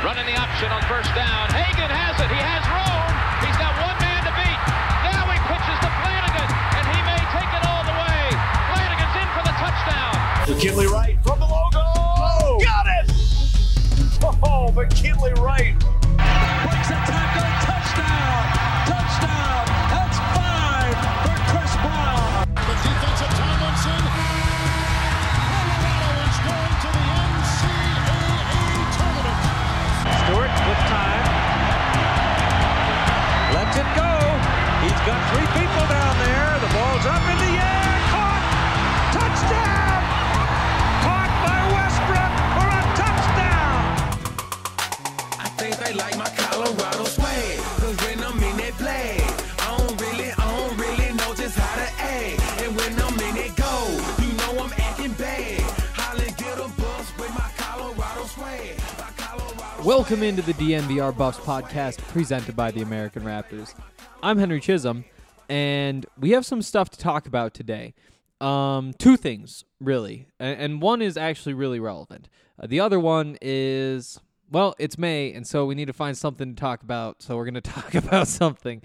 Running the option on first down. Hagan has it. He has room. He's got one man to beat. Now he pitches to Flanagan, and he may take it all the way. Flanagan's in for the touchdown. McKinley Wright from the logo. Oh, got it! Oh, McKinley Wright. Breaks a tackle. Touchdown. Touchdown. That's 5 for Chris Brown. The defensive Tomlinson. Colorado is going to the NCAA tournament. Stewart with time. Lets it go. He's got 3 people down there. The ball's up in the air. Caught. Touchdown. Caught by Westbrook for a touchdown. I think they like my Colorado swag. Cause when I'm in that play, I don't really know just how to act. And when I'm in it go, you know I'm acting bad. Holly get a bus with my Colorado swag. Welcome into the DNVR Buffs podcast presented by the American Raptors. I'm Henry Chisholm, and we have some stuff to talk about today. 2 things, really, and one is actually really relevant. The other one is, well, it's May, and so we need to find something to talk about, so we're going to talk about something.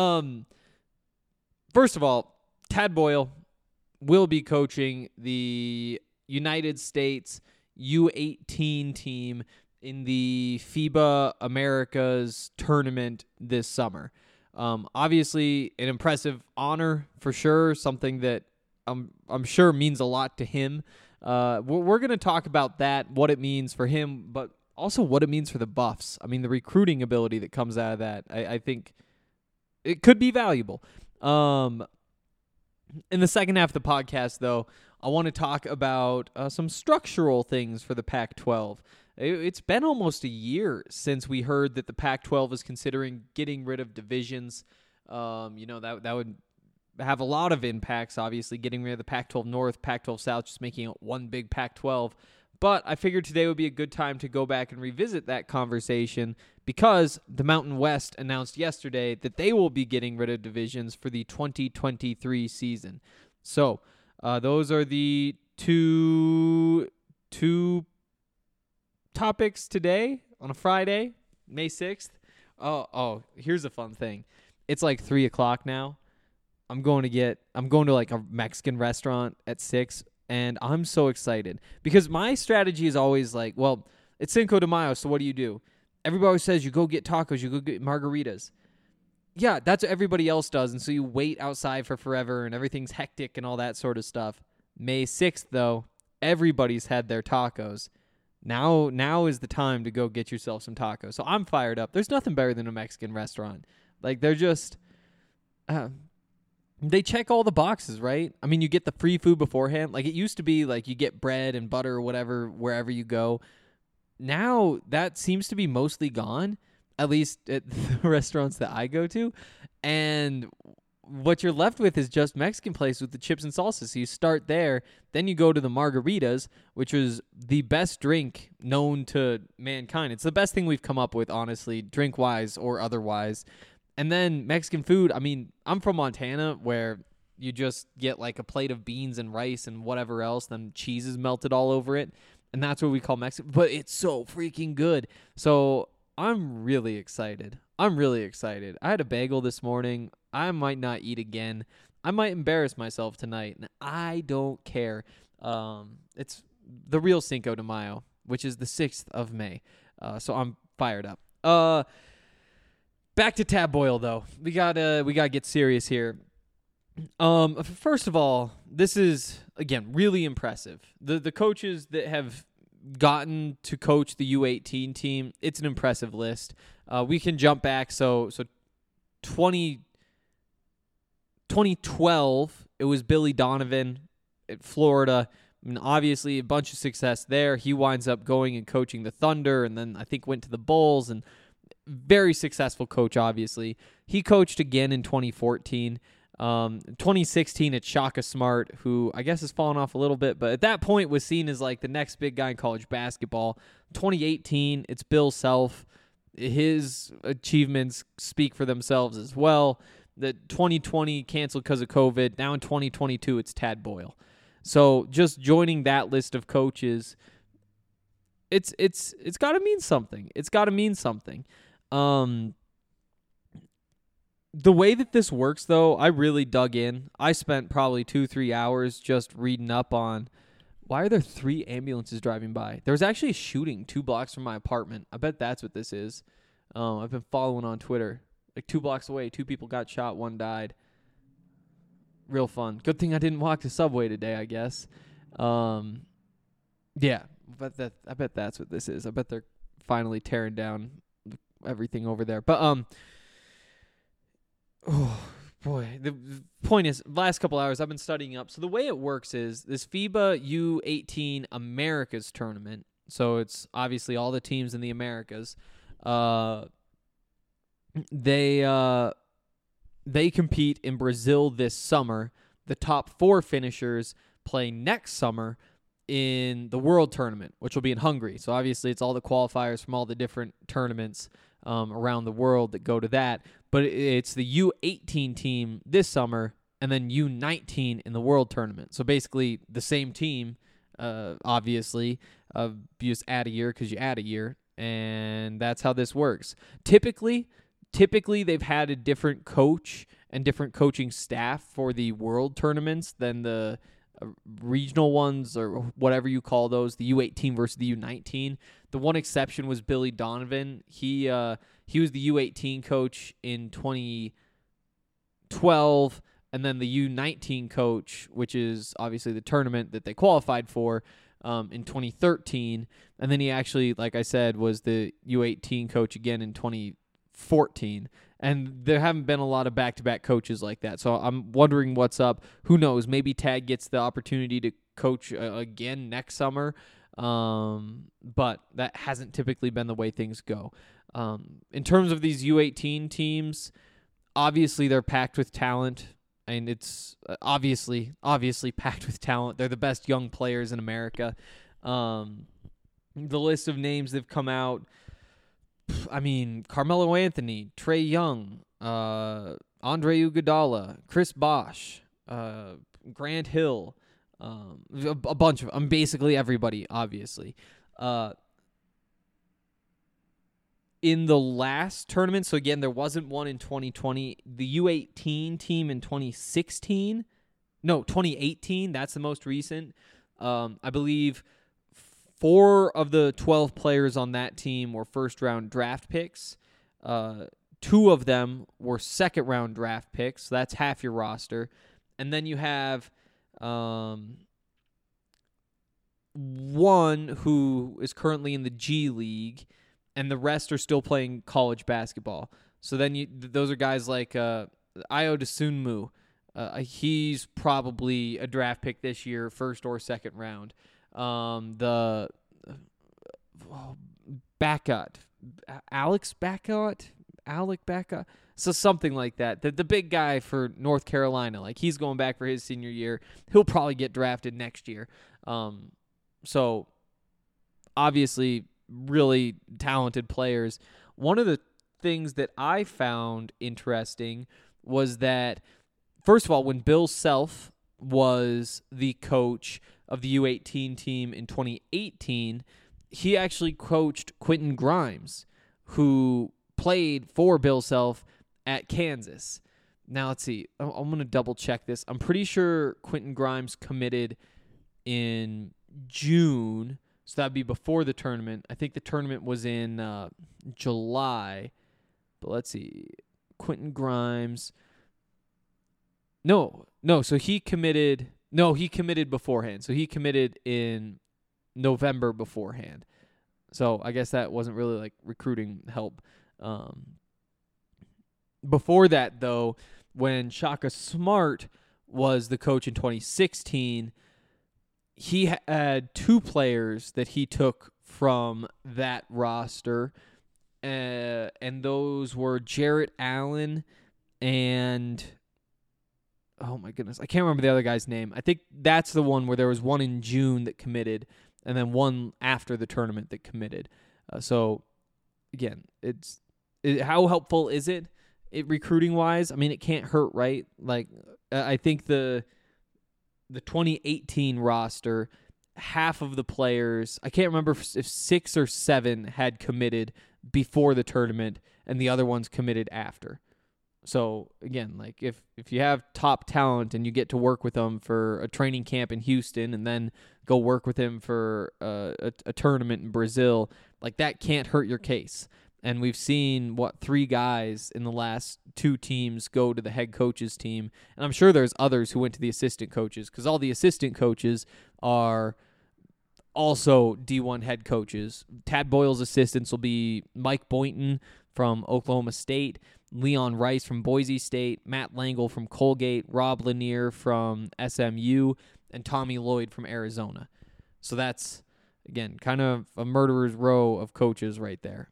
First of all, Tad Boyle will be coaching the United States U18 team in the FIBA Americas tournament this summer. Obviously, an impressive honor for sure, something that I'm sure means a lot to him. We're going to talk about that, what it means for him, but also what it means for the Buffs. I mean, the recruiting ability that comes out of that, I think it could be valuable. In the second half of the podcast, though, I want to talk about some structural things for the Pac-12. It's been almost a year since we heard that the Pac-12 is considering getting rid of divisions. That would have a lot of impacts, obviously, getting rid of the Pac-12 North, Pac-12 South, just making it one big Pac-12. But I figured today would be a good time to go back and revisit that conversation because the Mountain West announced yesterday that they will be getting rid of divisions for the 2023 season. So those are the two topics today on a Friday, May 6th. Oh, here's a fun thing. It's like 3 o'clock now. I'm going to like a Mexican restaurant at 6, and I'm so excited because my strategy is always like, well, it's Cinco de Mayo, so what do? Everybody always says you go get tacos, you go get margaritas. Yeah, that's what everybody else does, and so you wait outside for forever, and everything's hectic and all that sort of stuff. May 6th, though, everybody's had their tacos. Now is the time to go get yourself some tacos. So I'm fired up. There's nothing better than a Mexican restaurant. Like, they're just... they check all the boxes, right? I mean, you get the free food beforehand. Like, it used to be, like, you get bread and butter or whatever wherever you go. Now, that seems to be mostly gone, at least at the restaurants that I go to. And what you're left with is just Mexican place with the chips and salsa. So you start there, then you go to the margaritas, which is the best drink known to mankind. It's the best thing we've come up with, honestly, drink-wise or otherwise. And then Mexican food, I mean, I'm from Montana where you just get like a plate of beans and rice and whatever else, then cheese is melted all over it. And that's what we call Mexican, but it's so freaking good. So I'm really excited. I had a bagel this morning. I might not eat again. I might embarrass myself tonight, and I don't care. It's the real Cinco de Mayo, which is the 6th of May. So I'm fired up. Back to Tad Boyle, though. We gotta get serious here. First of all, this is, again, really impressive. The coaches that have gotten to coach the U18 team, it's an impressive list. We can jump back. So 2012, it was Billy Donovan at Florida. I mean, obviously, a bunch of success there. He winds up going and coaching the Thunder, and then I think went to the Bulls, and very successful coach, obviously. He coached again in 2014. 2016, it's Shaka Smart, who I guess has fallen off a little bit, but at that point was seen as like the next big guy in college basketball. 2018, it's Bill Self. His achievements speak for themselves as well. The 2020 canceled because of COVID. Now in 2022, it's Tad Boyle. So just joining that list of coaches, it's got to mean something. It's got to mean something. The way that this works, though, I really dug in. I spent probably 2-3 hours just reading up on why are there 3 ambulances driving by. There was actually a shooting 2 blocks from my apartment. I bet that's what this is. I've been following on Twitter. Like 2 blocks away, 2 people got shot, 1 died. Real fun. Good thing I didn't walk the subway today, I guess. Yeah, I bet that's what this is. I bet they're finally tearing down everything over there. But oh boy, the point is, last couple hours I've been studying up. So the way it works is this FIBA U18 Americas tournament. So it's obviously all the teams in the Americas. They compete in Brazil this summer. The top 4 finishers play next summer in the World Tournament, which will be in Hungary. So obviously it's all the qualifiers from all the different tournaments around the world that go to that. But it's the U18 team this summer and then U19 in the World Tournament. So basically the same team, obviously. You just add a year because you add a year, and that's how this works. Typically they've had a different coach and different coaching staff for the World Tournaments than the regional ones or whatever you call those, the U18 versus the U19. The one exception was Billy Donovan. He was the U18 coach in 2012, and then the U19 coach, which is obviously the tournament that they qualified for, in 2013. And then he actually, like I said, was the U18 coach again in 2014. And there haven't been a lot of back-to-back coaches like that. So I'm wondering what's up. Who knows? Maybe Tad gets the opportunity to coach again next summer. But that hasn't typically been the way things go. In terms of these U18 teams, obviously they're packed with talent. And it's obviously packed with talent. They're the best young players in America. The list of names that have come out, I mean, Carmelo Anthony, Trae Young, Andre Iguodala, Chris Bosh, Grant Hill, a bunch of them. Basically everybody, obviously. In the last tournament, so again, there wasn't one in 2020. The U18 team in 2018, that's the most recent. I believe 4 of the 12 players on that team were first-round draft picks. 2 of them were second-round draft picks. So that's half your roster. And then you have one who is currently in the G League, and the rest are still playing college basketball. So then those are guys like Ayo Dosunmu. He's probably a draft pick this year, first or second round. The Alec Bacot, so something like that. The big guy for North Carolina, like he's going back for his senior year. He'll probably get drafted next year. So obviously really talented players. One of the things that I found interesting was that, first of all, when Bill Self was the coach of the U18 team in 2018, he actually coached Quentin Grimes, who played for Bill Self at Kansas. Now, let's see. I'm going to double check this. I'm pretty sure Quentin Grimes committed in June, so that'd be before the tournament. I think the tournament was in July. But let's see. Quentin Grimes. No, so he committed. No, he committed beforehand. So he committed in November beforehand. So I guess that wasn't really like recruiting help. Before that, though, when Shaka Smart was the coach in 2016, he had 2 players that he took from that roster, and those were Jarrett Allen and, oh my goodness, I can't remember the other guy's name. I think that's the one where there was one in June that committed, and then one after the tournament that committed. So, again, how helpful is it recruiting-wise? I mean, it can't hurt, right? Like, I think the 2018 roster half of the players, I can't remember if 6 or 7 had committed before the tournament and the other ones committed after. So again, like if you have top talent and you get to work with them for a training camp in Houston and then go work with him for a tournament in Brazil, like that can't hurt your case. And we've seen 3 guys in the last 2 teams go to the head coach's team, and I'm sure there's others who went to the assistant coaches, because all the assistant coaches are also D1 head coaches. Tad Boyle's assistants will be Mike Boynton from Oklahoma State, Leon Rice from Boise State, Matt Langle from Colgate, Rob Lanier from SMU, and Tommy Lloyd from Arizona. So that's, again, kind of a murderer's row of coaches right there.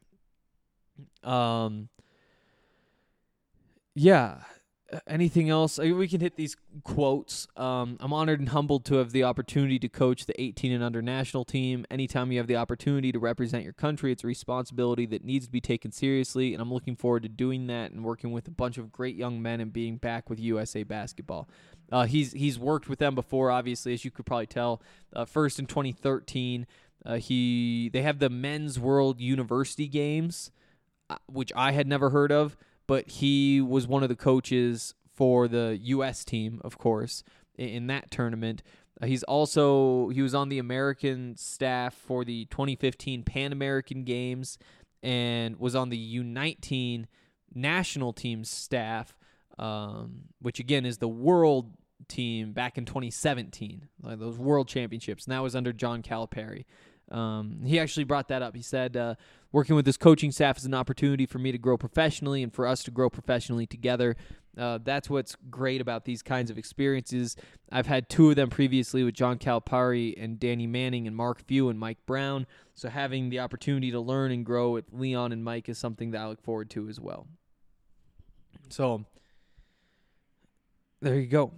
Yeah. Anything else? We can hit these quotes. I'm honored and humbled to have the opportunity to coach the 18 and under national team. Anytime you have the opportunity to represent your country, it's a responsibility that needs to be taken seriously, and I'm looking forward to doing that and working with a bunch of great young men and being back with USA Basketball. He's worked with them before, obviously, as you could probably tell. First in 2013, they have the Men's World University Games, which I had never heard of. But he was one of the coaches for the U.S. team, of course, in that tournament. He was on the American staff for the 2015 Pan American Games and was on the U19 national team staff, which, again, is the world team back in 2017, like those world championships. And that was under John Calipari. He actually brought that up. He said, working with this coaching staff is an opportunity for me to grow professionally and for us to grow professionally together. That's what's great about these kinds of experiences. I've had 2 of them previously with John Calipari and Danny Manning and Mark Few and Mike Brown. So having the opportunity to learn and grow with Leon and Mike is something that I look forward to as well. So there you go.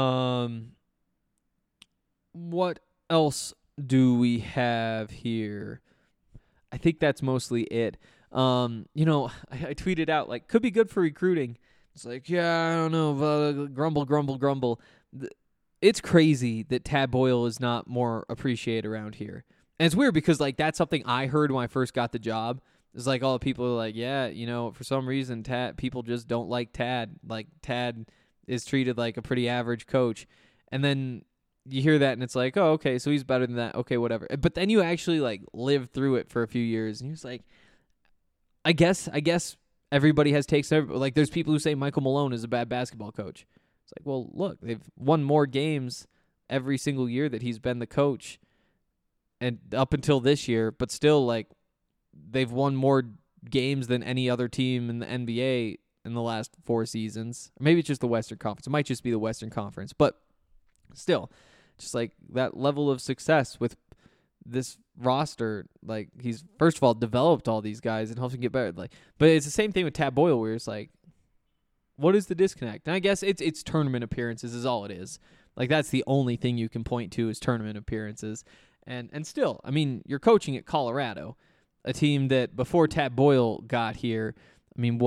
What else do we have here? I think that's mostly it. I tweeted out, like, could be good for recruiting. It's like, yeah, I don't know, grumble. It's crazy that Tad Boyle is not more appreciated around here. And it's weird because, like, that's something I heard when I first got the job. It's like all the people are like, yeah, for some reason, people just don't like Tad. Like, Tad is treated like a pretty average coach. And then you hear that and it's like, oh, okay, so he's better than that. Okay, whatever. But then you actually like live through it for a few years and you're just like, I guess everybody has takes. Like there's people who say Michael Malone is a bad basketball coach. It's like, well, look, they've won more games every single year that he's been the coach and up until this year, but still like they've won more games than any other team in the NBA in the last 4 seasons. Or maybe it's just the Western Conference. It might just be the Western Conference, but still, just like that level of success with this roster, like he's first of all developed all these guys and helps them get better. Like, but it's the same thing with Tad Boyle, where it's like, what is the disconnect? And I guess it's tournament appearances is all it is. Like that's the only thing you can point to is tournament appearances. And still, I mean, you're coaching at Colorado, a team that before Tad Boyle got here, I mean,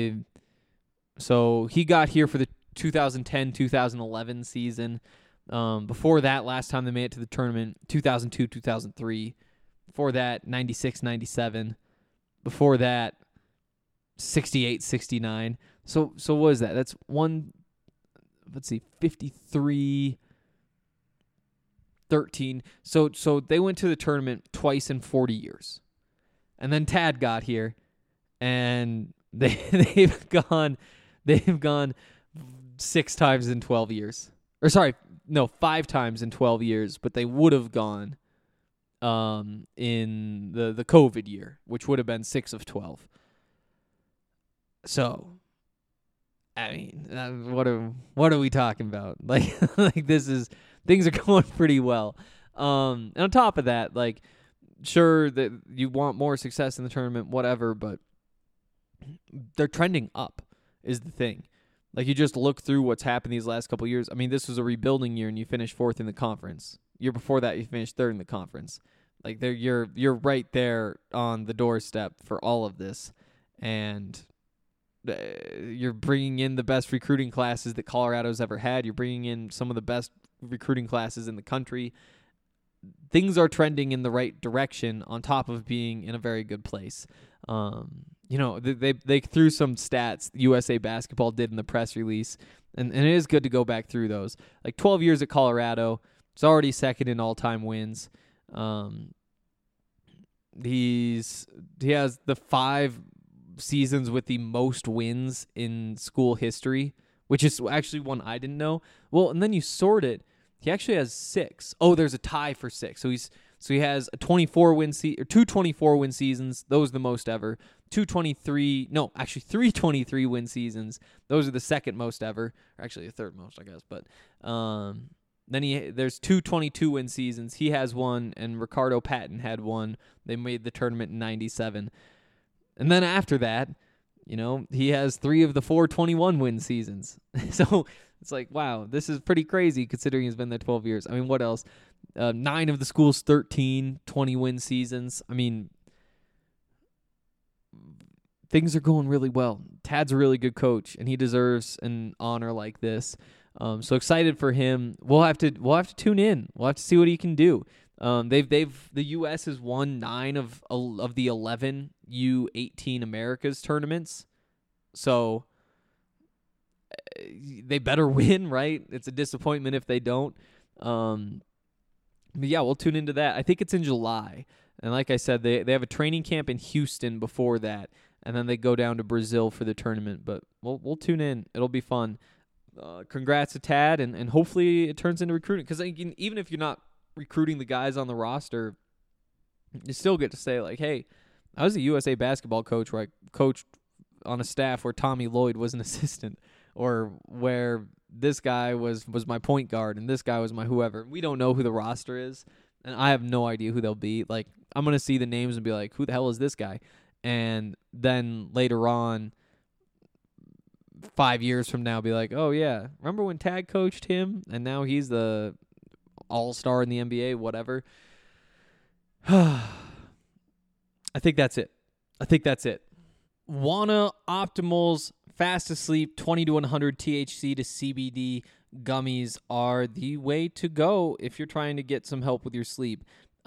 so he got here for the 2010-2011 season. Before that, last time they made it to the tournament, 2002, 2003. Before that, 96, 97. Before that, 68, 69. So what is that? That's 53, 13. So they went to the tournament twice in 40 years. And then Tad got here, and they've gone 6 times in 12 years. Or sorry, no, 5 times in 12 years, but they would have gone in the COVID year, which would have been 6 of 12. So, I mean, what are we talking about? Like things are going pretty well. And on top of that, like, sure that you want more success in the tournament, whatever, but they're trending up is the thing. Like, you just look through what's happened these last couple of years. I mean, this was a rebuilding year, and you finished 4th in the conference. Year before that, you finished 3rd in the conference. Like, you're right there on the doorstep for all of this, and you're bringing in the best recruiting classes that Colorado's ever had. You're bringing in some of the best recruiting classes in the country. things are trending in the right direction on top of being in a very good place. They threw some stats USA Basketball did in the press release, and it is good to go back through those. Like 12 years at Colorado, it's already second in all-time wins. He has the 5 seasons with the most wins in school history, which is actually one I didn't know. Well, and then you sort it. He actually has 6. Oh, there's a tie for 6. So he has a 24-win or 2 24-win seasons. Those are the most ever. 3 23-win seasons. Those are the second most ever. Or actually the third most, I guess. But then there's 2 22-win seasons. He has one, and Ricardo Patton had one. They made the tournament in 97. And then after that, he has 3 of the 4 21-win seasons. So it's like, wow, this is pretty crazy considering he's been there 12 years. I mean, what else? 9 of the school's 13 20-win seasons. I mean, things are going really well. Tad's a really good coach, and he deserves an honor like this. So excited for him. We'll have to tune in. We'll have to see what he can do. The U.S. has won 9 of the 11 U18 Americas tournaments, so they better win, right? It's a disappointment if they don't. But yeah, we'll tune into that. I think it's in July, and like I said, they have a training camp in Houston before that, and then they go down to Brazil for the tournament. But we'll tune in. It'll be fun. Congrats to Tad, and hopefully it turns into recruiting. Because even if you're not recruiting the guys on the roster, you still get to say, like, hey, I was a USA basketball coach where I coached on a staff where Tommy Lloyd was an assistant, or where this guy was my point guard and this guy was my whoever. We don't know who the roster is, and I have no idea who they'll be. Like, I'm going to see the names and be like, who the hell is this guy? And then later on, 5 years from now, be like, oh, yeah, remember when Tad coached him? And now he's the all-star in the NBA, whatever. I think that's it. Wana Optimals Fast Asleep 20 to 100 THC to CBD gummies are the way to go if you're trying to get some help with your sleep.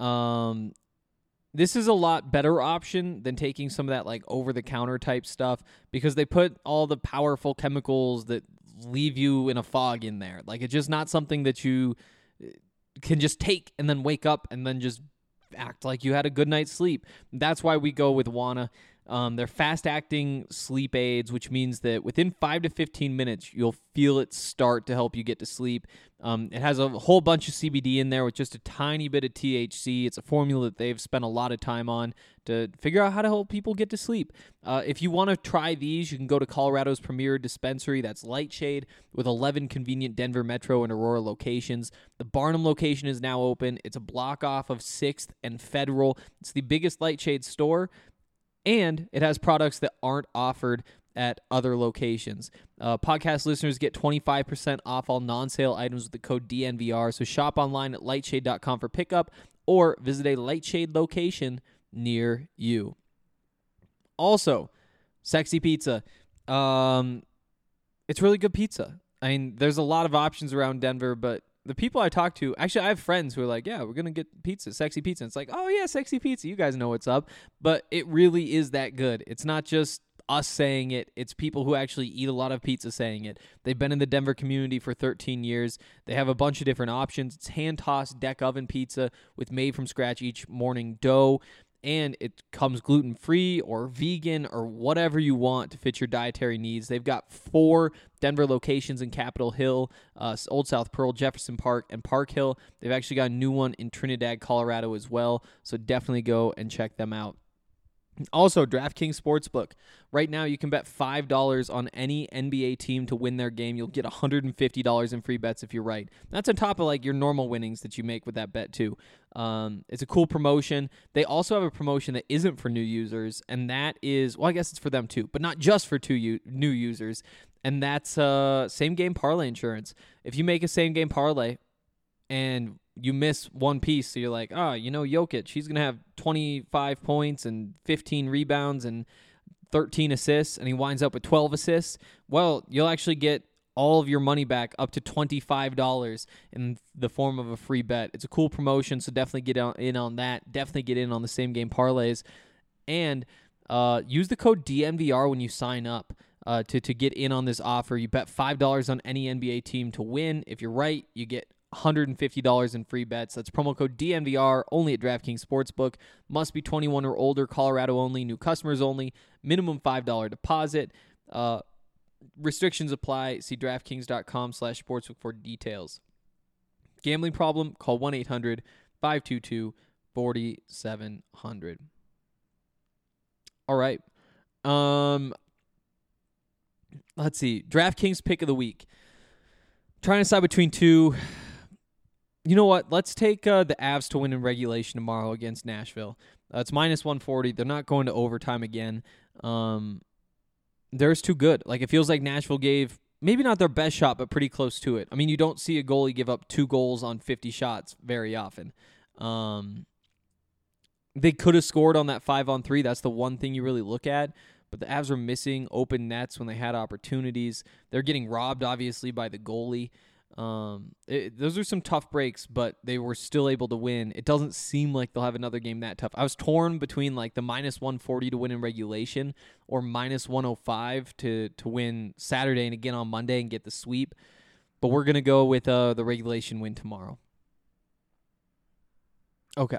This is a lot better option than taking some of that like over-the-counter type stuff, because they put all the powerful chemicals that leave you in a fog in there. Like, it's just not something that you can just take and then wake up and then just act like you had a good night's sleep. That's why we go with Wana. They're fast-acting sleep aids, which means that within 5 to 15 minutes, you'll feel it start to help you get to sleep. It has a whole bunch of CBD in there with just a tiny bit of THC. It's a formula that they've spent a lot of time on to figure out how to help people get to sleep. If you want to try these, you can go to Colorado's premier dispensary. That's Lightshade, with 11 convenient Denver Metro and Aurora locations. The Barnum location is now open. It's a block off of 6th and Federal. It's the biggest Lightshade store, and it has products that aren't offered at other locations. Podcast listeners get 25% off all non-sale items with the code DNVR. So shop online at lightshade.com for pickup, or visit a Lightshade location near you. Also, Sexy Pizza. It's really good pizza. I mean, there's a lot of options around Denver, but the people I talk to, actually, I have friends who are like, yeah, we're going to get pizza, Sexy Pizza. And it's like, oh, yeah, Sexy Pizza. You guys know what's up. But it really is that good. It's not just us saying it. It's people who actually eat a lot of pizza saying it. They've been in the Denver community for 13 years. They have a bunch of different options. It's hand-tossed deck oven pizza with made-from-scratch each morning dough. And it comes gluten-free or vegan or whatever you want to fit your dietary needs. They've got 4 Denver locations in Capitol Hill, Old South Pearl, Jefferson Park, and Park Hill. They've actually got a new one in Trinidad, Colorado as well, so definitely go and check them out. Also, DraftKings Sportsbook. Right now, you can bet $5 on any NBA team to win their game. You'll get $150 in free bets if you're right. That's on top of like your normal winnings that you make with that bet too. It's a cool promotion. They also have a promotion that isn't for new users, and that is, well, I guess it's for them too, but not just for new users. And that's same game parlay insurance. If you make a same game parlay and you miss one piece, so you're like, Jokic, he's going to have 25 points and 15 rebounds and 13 assists, and he winds up with 12 assists. Well, you'll actually get all of your money back up to $25 in the form of a free bet. It's a cool promotion, so definitely get in on that. Definitely get in on the same game parlays. And use the code DNVR when you sign up to get in on this offer. You bet $5 on any NBA team to win. If you're right, you get $150 in free bets. That's promo code DNVR, only at DraftKings Sportsbook. Must be 21 or older, Colorado only, new customers only, minimum $5 deposit. Restrictions apply. See DraftKings.com/sportsbook for details. Gambling problem? Call 1-800-522-4700. All right. Let's see. DraftKings pick of the week. Trying to decide between two. You know what? Let's take the Avs to win in regulation tomorrow against Nashville. It's -140. They're not going to overtime again. They're just too good. Like, it feels like Nashville gave maybe not their best shot, but pretty close to it. I mean, you don't see a goalie give up 2 goals on 50 shots very often. They could have scored on that 5-on-3. That's the one thing you really look at. But the Avs were missing open nets when they had opportunities. They're getting robbed, obviously, by the goalie. Those are some tough breaks, but they were still able to win. It doesn't seem like they'll have another game that tough. I was torn between like the -140 to win in regulation or -105 to win Saturday and again on Monday and get the sweep. But we're going to go with the regulation win tomorrow. Okay.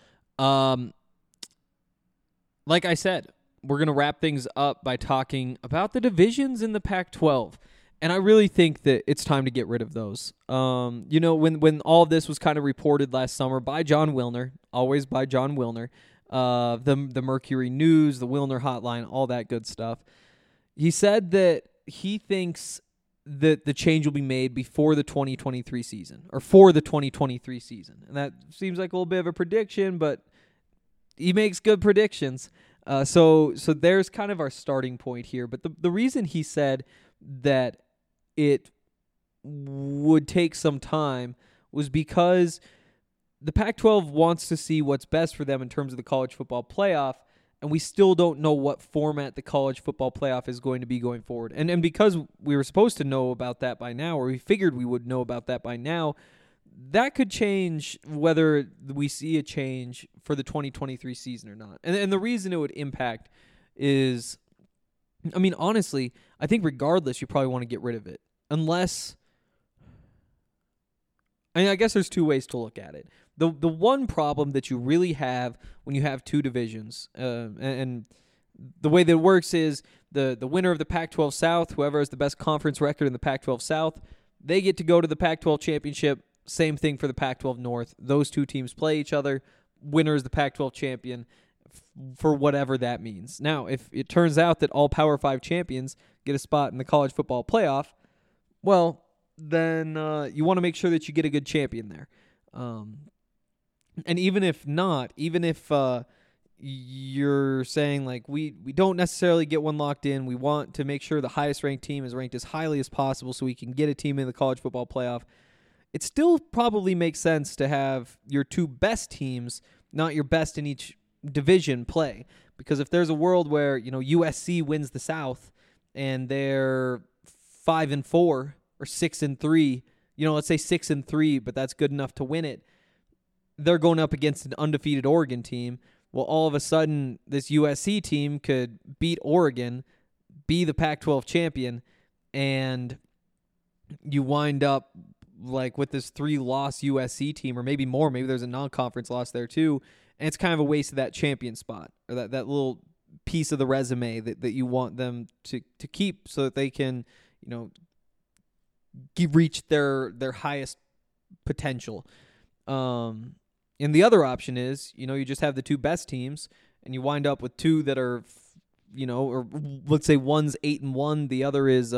Like I said, we're going to wrap things up by talking about the divisions in the Pac-12. And I really think that it's time to get rid of those. When all of this was kind of reported last summer by John Wilner, always by John Wilner, the Mercury News, the Wilner Hotline, all that good stuff. He said that he thinks that the change will be made before the 2023 season, or for the 2023 season. And that seems like a little bit of a prediction, but he makes good predictions. So there's kind of our starting point here. But the reason he said that it would take some time was because the Pac-12 wants to see what's best for them in terms of the college football playoff, and we still don't know what format the college football playoff is going to be going forward. And because we were supposed to know about that by now, or we figured we would know about that by now, that could change whether we see a change for the 2023 season or not. And the reason it would impact is, I mean, honestly, I think regardless, you probably want to get rid of it. Unless, I guess there's 2 ways to look at it. The one problem that you really have when you have 2 divisions, and the way that it works is the winner of the Pac-12 South, whoever has the best conference record in the Pac-12 South, they get to go to the Pac-12 Championship. Same thing for the Pac-12 North. Those 2 teams play each other. Winner is the Pac-12 champion for whatever that means. Now, if it turns out that all Power 5 champions get a spot in the college football playoff, well, then you want to make sure that you get a good champion there. And even if not, even if you're saying, like, we don't necessarily get one locked in, we want to make sure the highest ranked team is ranked as highly as possible so we can get a team in the college football playoff, it still probably makes sense to have your 2 best teams, not your best in each division, play. Because if there's a world where, USC wins the South and they're 5-4 or 6-3, let's say 6-3, but that's good enough to win it, they're going up against an undefeated Oregon team. Well, all of a sudden, this USC team could beat Oregon, be the Pac-12 champion, and you wind up like with this 3-loss USC team, or maybe more. Maybe there's a non-conference loss there too, and it's kind of a waste of that champion spot, or that little piece of the resume that you want them to keep so that they can, reach their highest potential. And the other option is, you just have the 2 best teams, and you wind up with 2 that are, or let's say one's 8-1, the other is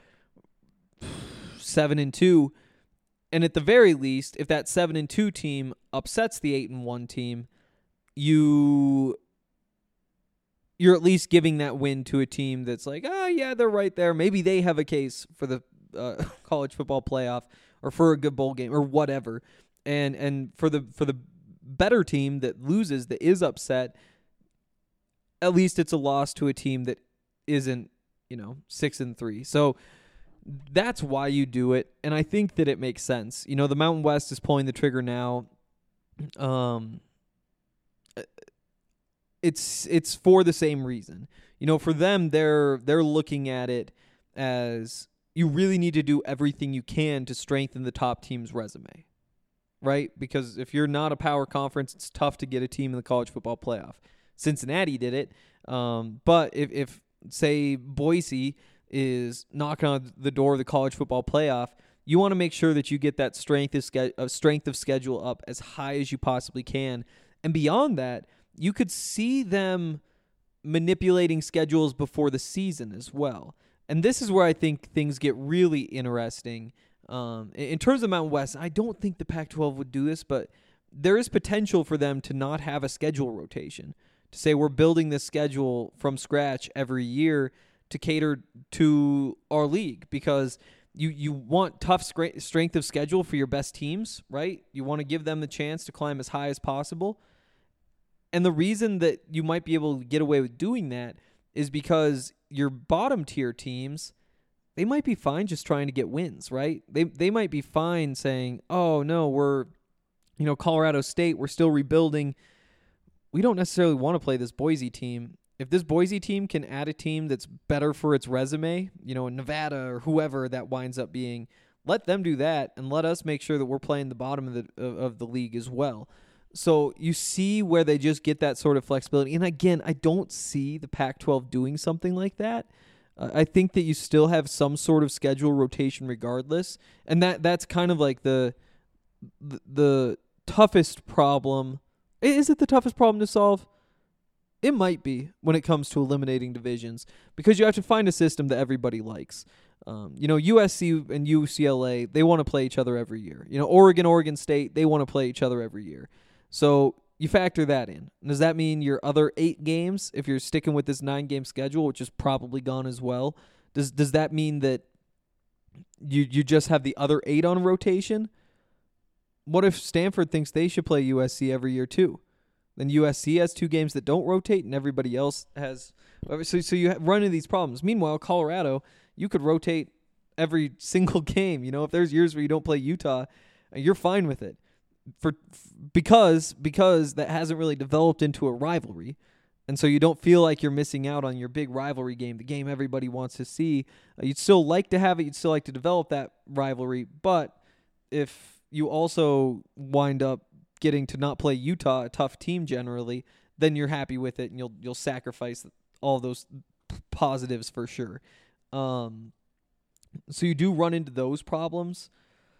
7-2. And at the very least, if that 7-2 team upsets the 8-1 team, you're at least giving that win to a team that's like, oh yeah, they're right there. Maybe they have a case for the college football playoff or for a good bowl game or whatever. And for the better team that loses, that is upset, at least it's a loss to a team that isn't, 6-3. So That's why you do it, and I think that it makes sense. You know, the Mountain West is pulling the trigger now. It's for the same reason. You know, for them, they're looking at it as you really need to do everything you can to strengthen the top team's resume, right? Because if you're not a power conference, it's tough to get a team in the college football playoff. Cincinnati did it, but if say Boise is knocking on the door of the college football playoff, you want to make sure that you get that strength of schedule up as high as you possibly can. And beyond that, you could see them manipulating schedules before the season as well. And this is where I think things get really interesting. In terms of Mountain West, I don't think the Pac-12 would do this, but there is potential for them to not have a schedule rotation, to say we're building this schedule from scratch every year to cater to our league, because you want tough strength of schedule for your best teams, right? You want to give them the chance to climb as high as possible. And the reason that you might be able to get away with doing that is because your bottom tier teams, they might be fine just trying to get wins, right? They might be fine saying, oh, no, we're, Colorado State, we're still rebuilding. We don't necessarily want to play this Boise team. If this Boise team can add a team that's better for its resume, Nevada or whoever that winds up being, let them do that and let us make sure that we're playing the bottom of the league as well. So you see where they just get that sort of flexibility. And again, I don't see the Pac-12 doing something like that. I think that you still have some sort of schedule rotation regardless. And that's kind of like the toughest problem. Is it the toughest problem to solve? It might be when it comes to eliminating divisions, because you have to find a system that everybody likes. USC and UCLA, they want to play each other every year. Oregon State, they want to play each other every year. So you factor that in. Does that mean your other 8 games, if you're sticking with this 9-game schedule, which is probably gone as well, does that mean that you just have the other 8 on rotation? What if Stanford thinks they should play USC every year too? Then USC has 2 games that don't rotate, and everybody else has. So you run into these problems. Meanwhile, Colorado, you could rotate every single game. If there's years where you don't play Utah, you're fine with it. Because that hasn't really developed into a rivalry, and so you don't feel like you're missing out on your big rivalry game, the game everybody wants to see. You'd still like to have it. You'd still like to develop that rivalry, but if you also wind up getting to not play Utah, a tough team generally, then you're happy with it, and you'll sacrifice all those positives for sure. So you do run into those problems.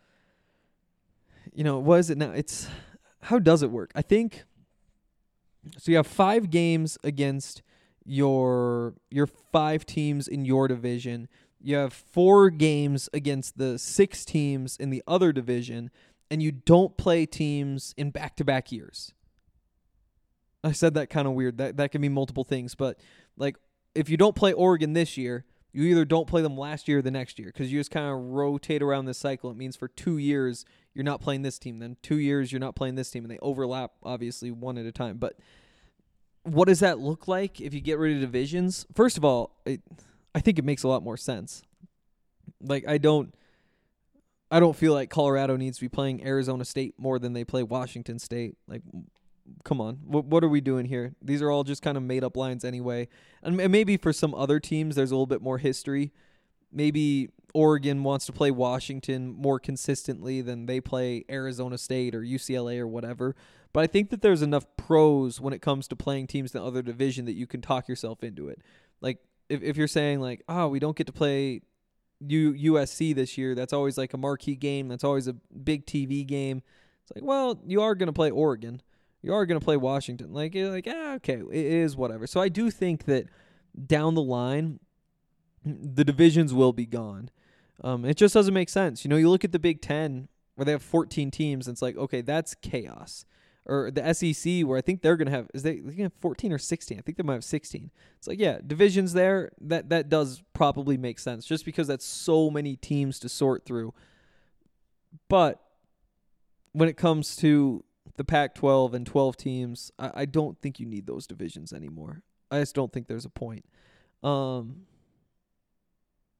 What is it now? How does it work? I think so. You have 5 games against your 5 teams in your division. You have 4 games against the 6 teams in the other division, and you don't play teams in back-to-back years. I said that kind of weird. That can mean multiple things, but like if you don't play Oregon this year, you either don't play them last year or the next year, because you just kind of rotate around this cycle. It means for 2 years you're not playing this team, then 2 years you're not playing this team, and they overlap obviously one at a time. But what does that look like if you get rid of divisions? First of all, I think it makes a lot more sense. Like I don't feel like Colorado needs to be playing Arizona State more than they play Washington State. Like, come on. What are we doing here? These are all just kind of made-up lines anyway. And maybe for some other teams, there's a little bit more history. Maybe Oregon wants to play Washington more consistently than they play Arizona State or UCLA or whatever. But I think that there's enough pros when it comes to playing teams in the other division that you can talk yourself into it. Like, if you're saying, like, we don't get to play USC this year, that's always like a marquee game, that's always a big TV game. It's like, well, you are going to play Oregon, you are going to play Washington, okay, it is whatever. So I do think that down the line the divisions will be gone. It just doesn't make sense. You look at the Big Ten where they have 14 teams, and it's like, okay, that's chaos. Or the SEC, where I think they're going to have, they going to have 14 or 16? I think they might have 16. It's like, yeah, divisions there, that does probably make sense, just because that's so many teams to sort through. But when it comes to the Pac-12 and 12 teams, I don't think you need those divisions anymore. I just don't think there's a point.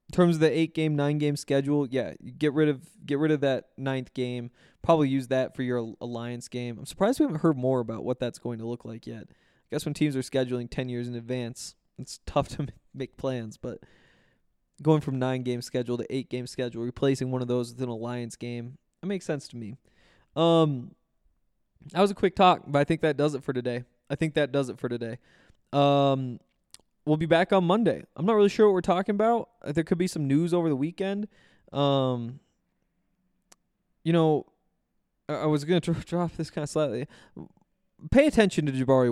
In terms of the 8-game, 9-game schedule, yeah, get rid of that 9th game. Probably use that for your Alliance game. I'm surprised we haven't heard more about what that's going to look like yet. I guess when teams are scheduling 10 years in advance, it's tough to make plans. But going from 9-game schedule to 8-game schedule, replacing one of those with an Alliance game, it makes sense to me. That was a quick talk, but I think that does it for today. We'll be back on Monday. I'm not really sure what we're talking about. There could be some news over the weekend. I was going to drop this kind of slightly. Pay attention to Jabari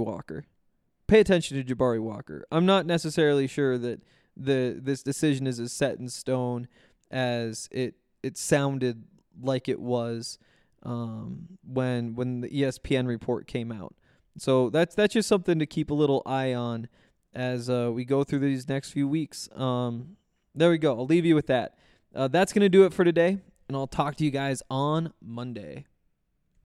Walker. I'm not necessarily sure that this decision is as set in stone as it sounded like it was when the ESPN report came out. So that's just something to keep a little eye on as we go through these next few weeks. There we go. I'll leave you with that. That's going to do it for today, and I'll talk to you guys on Monday.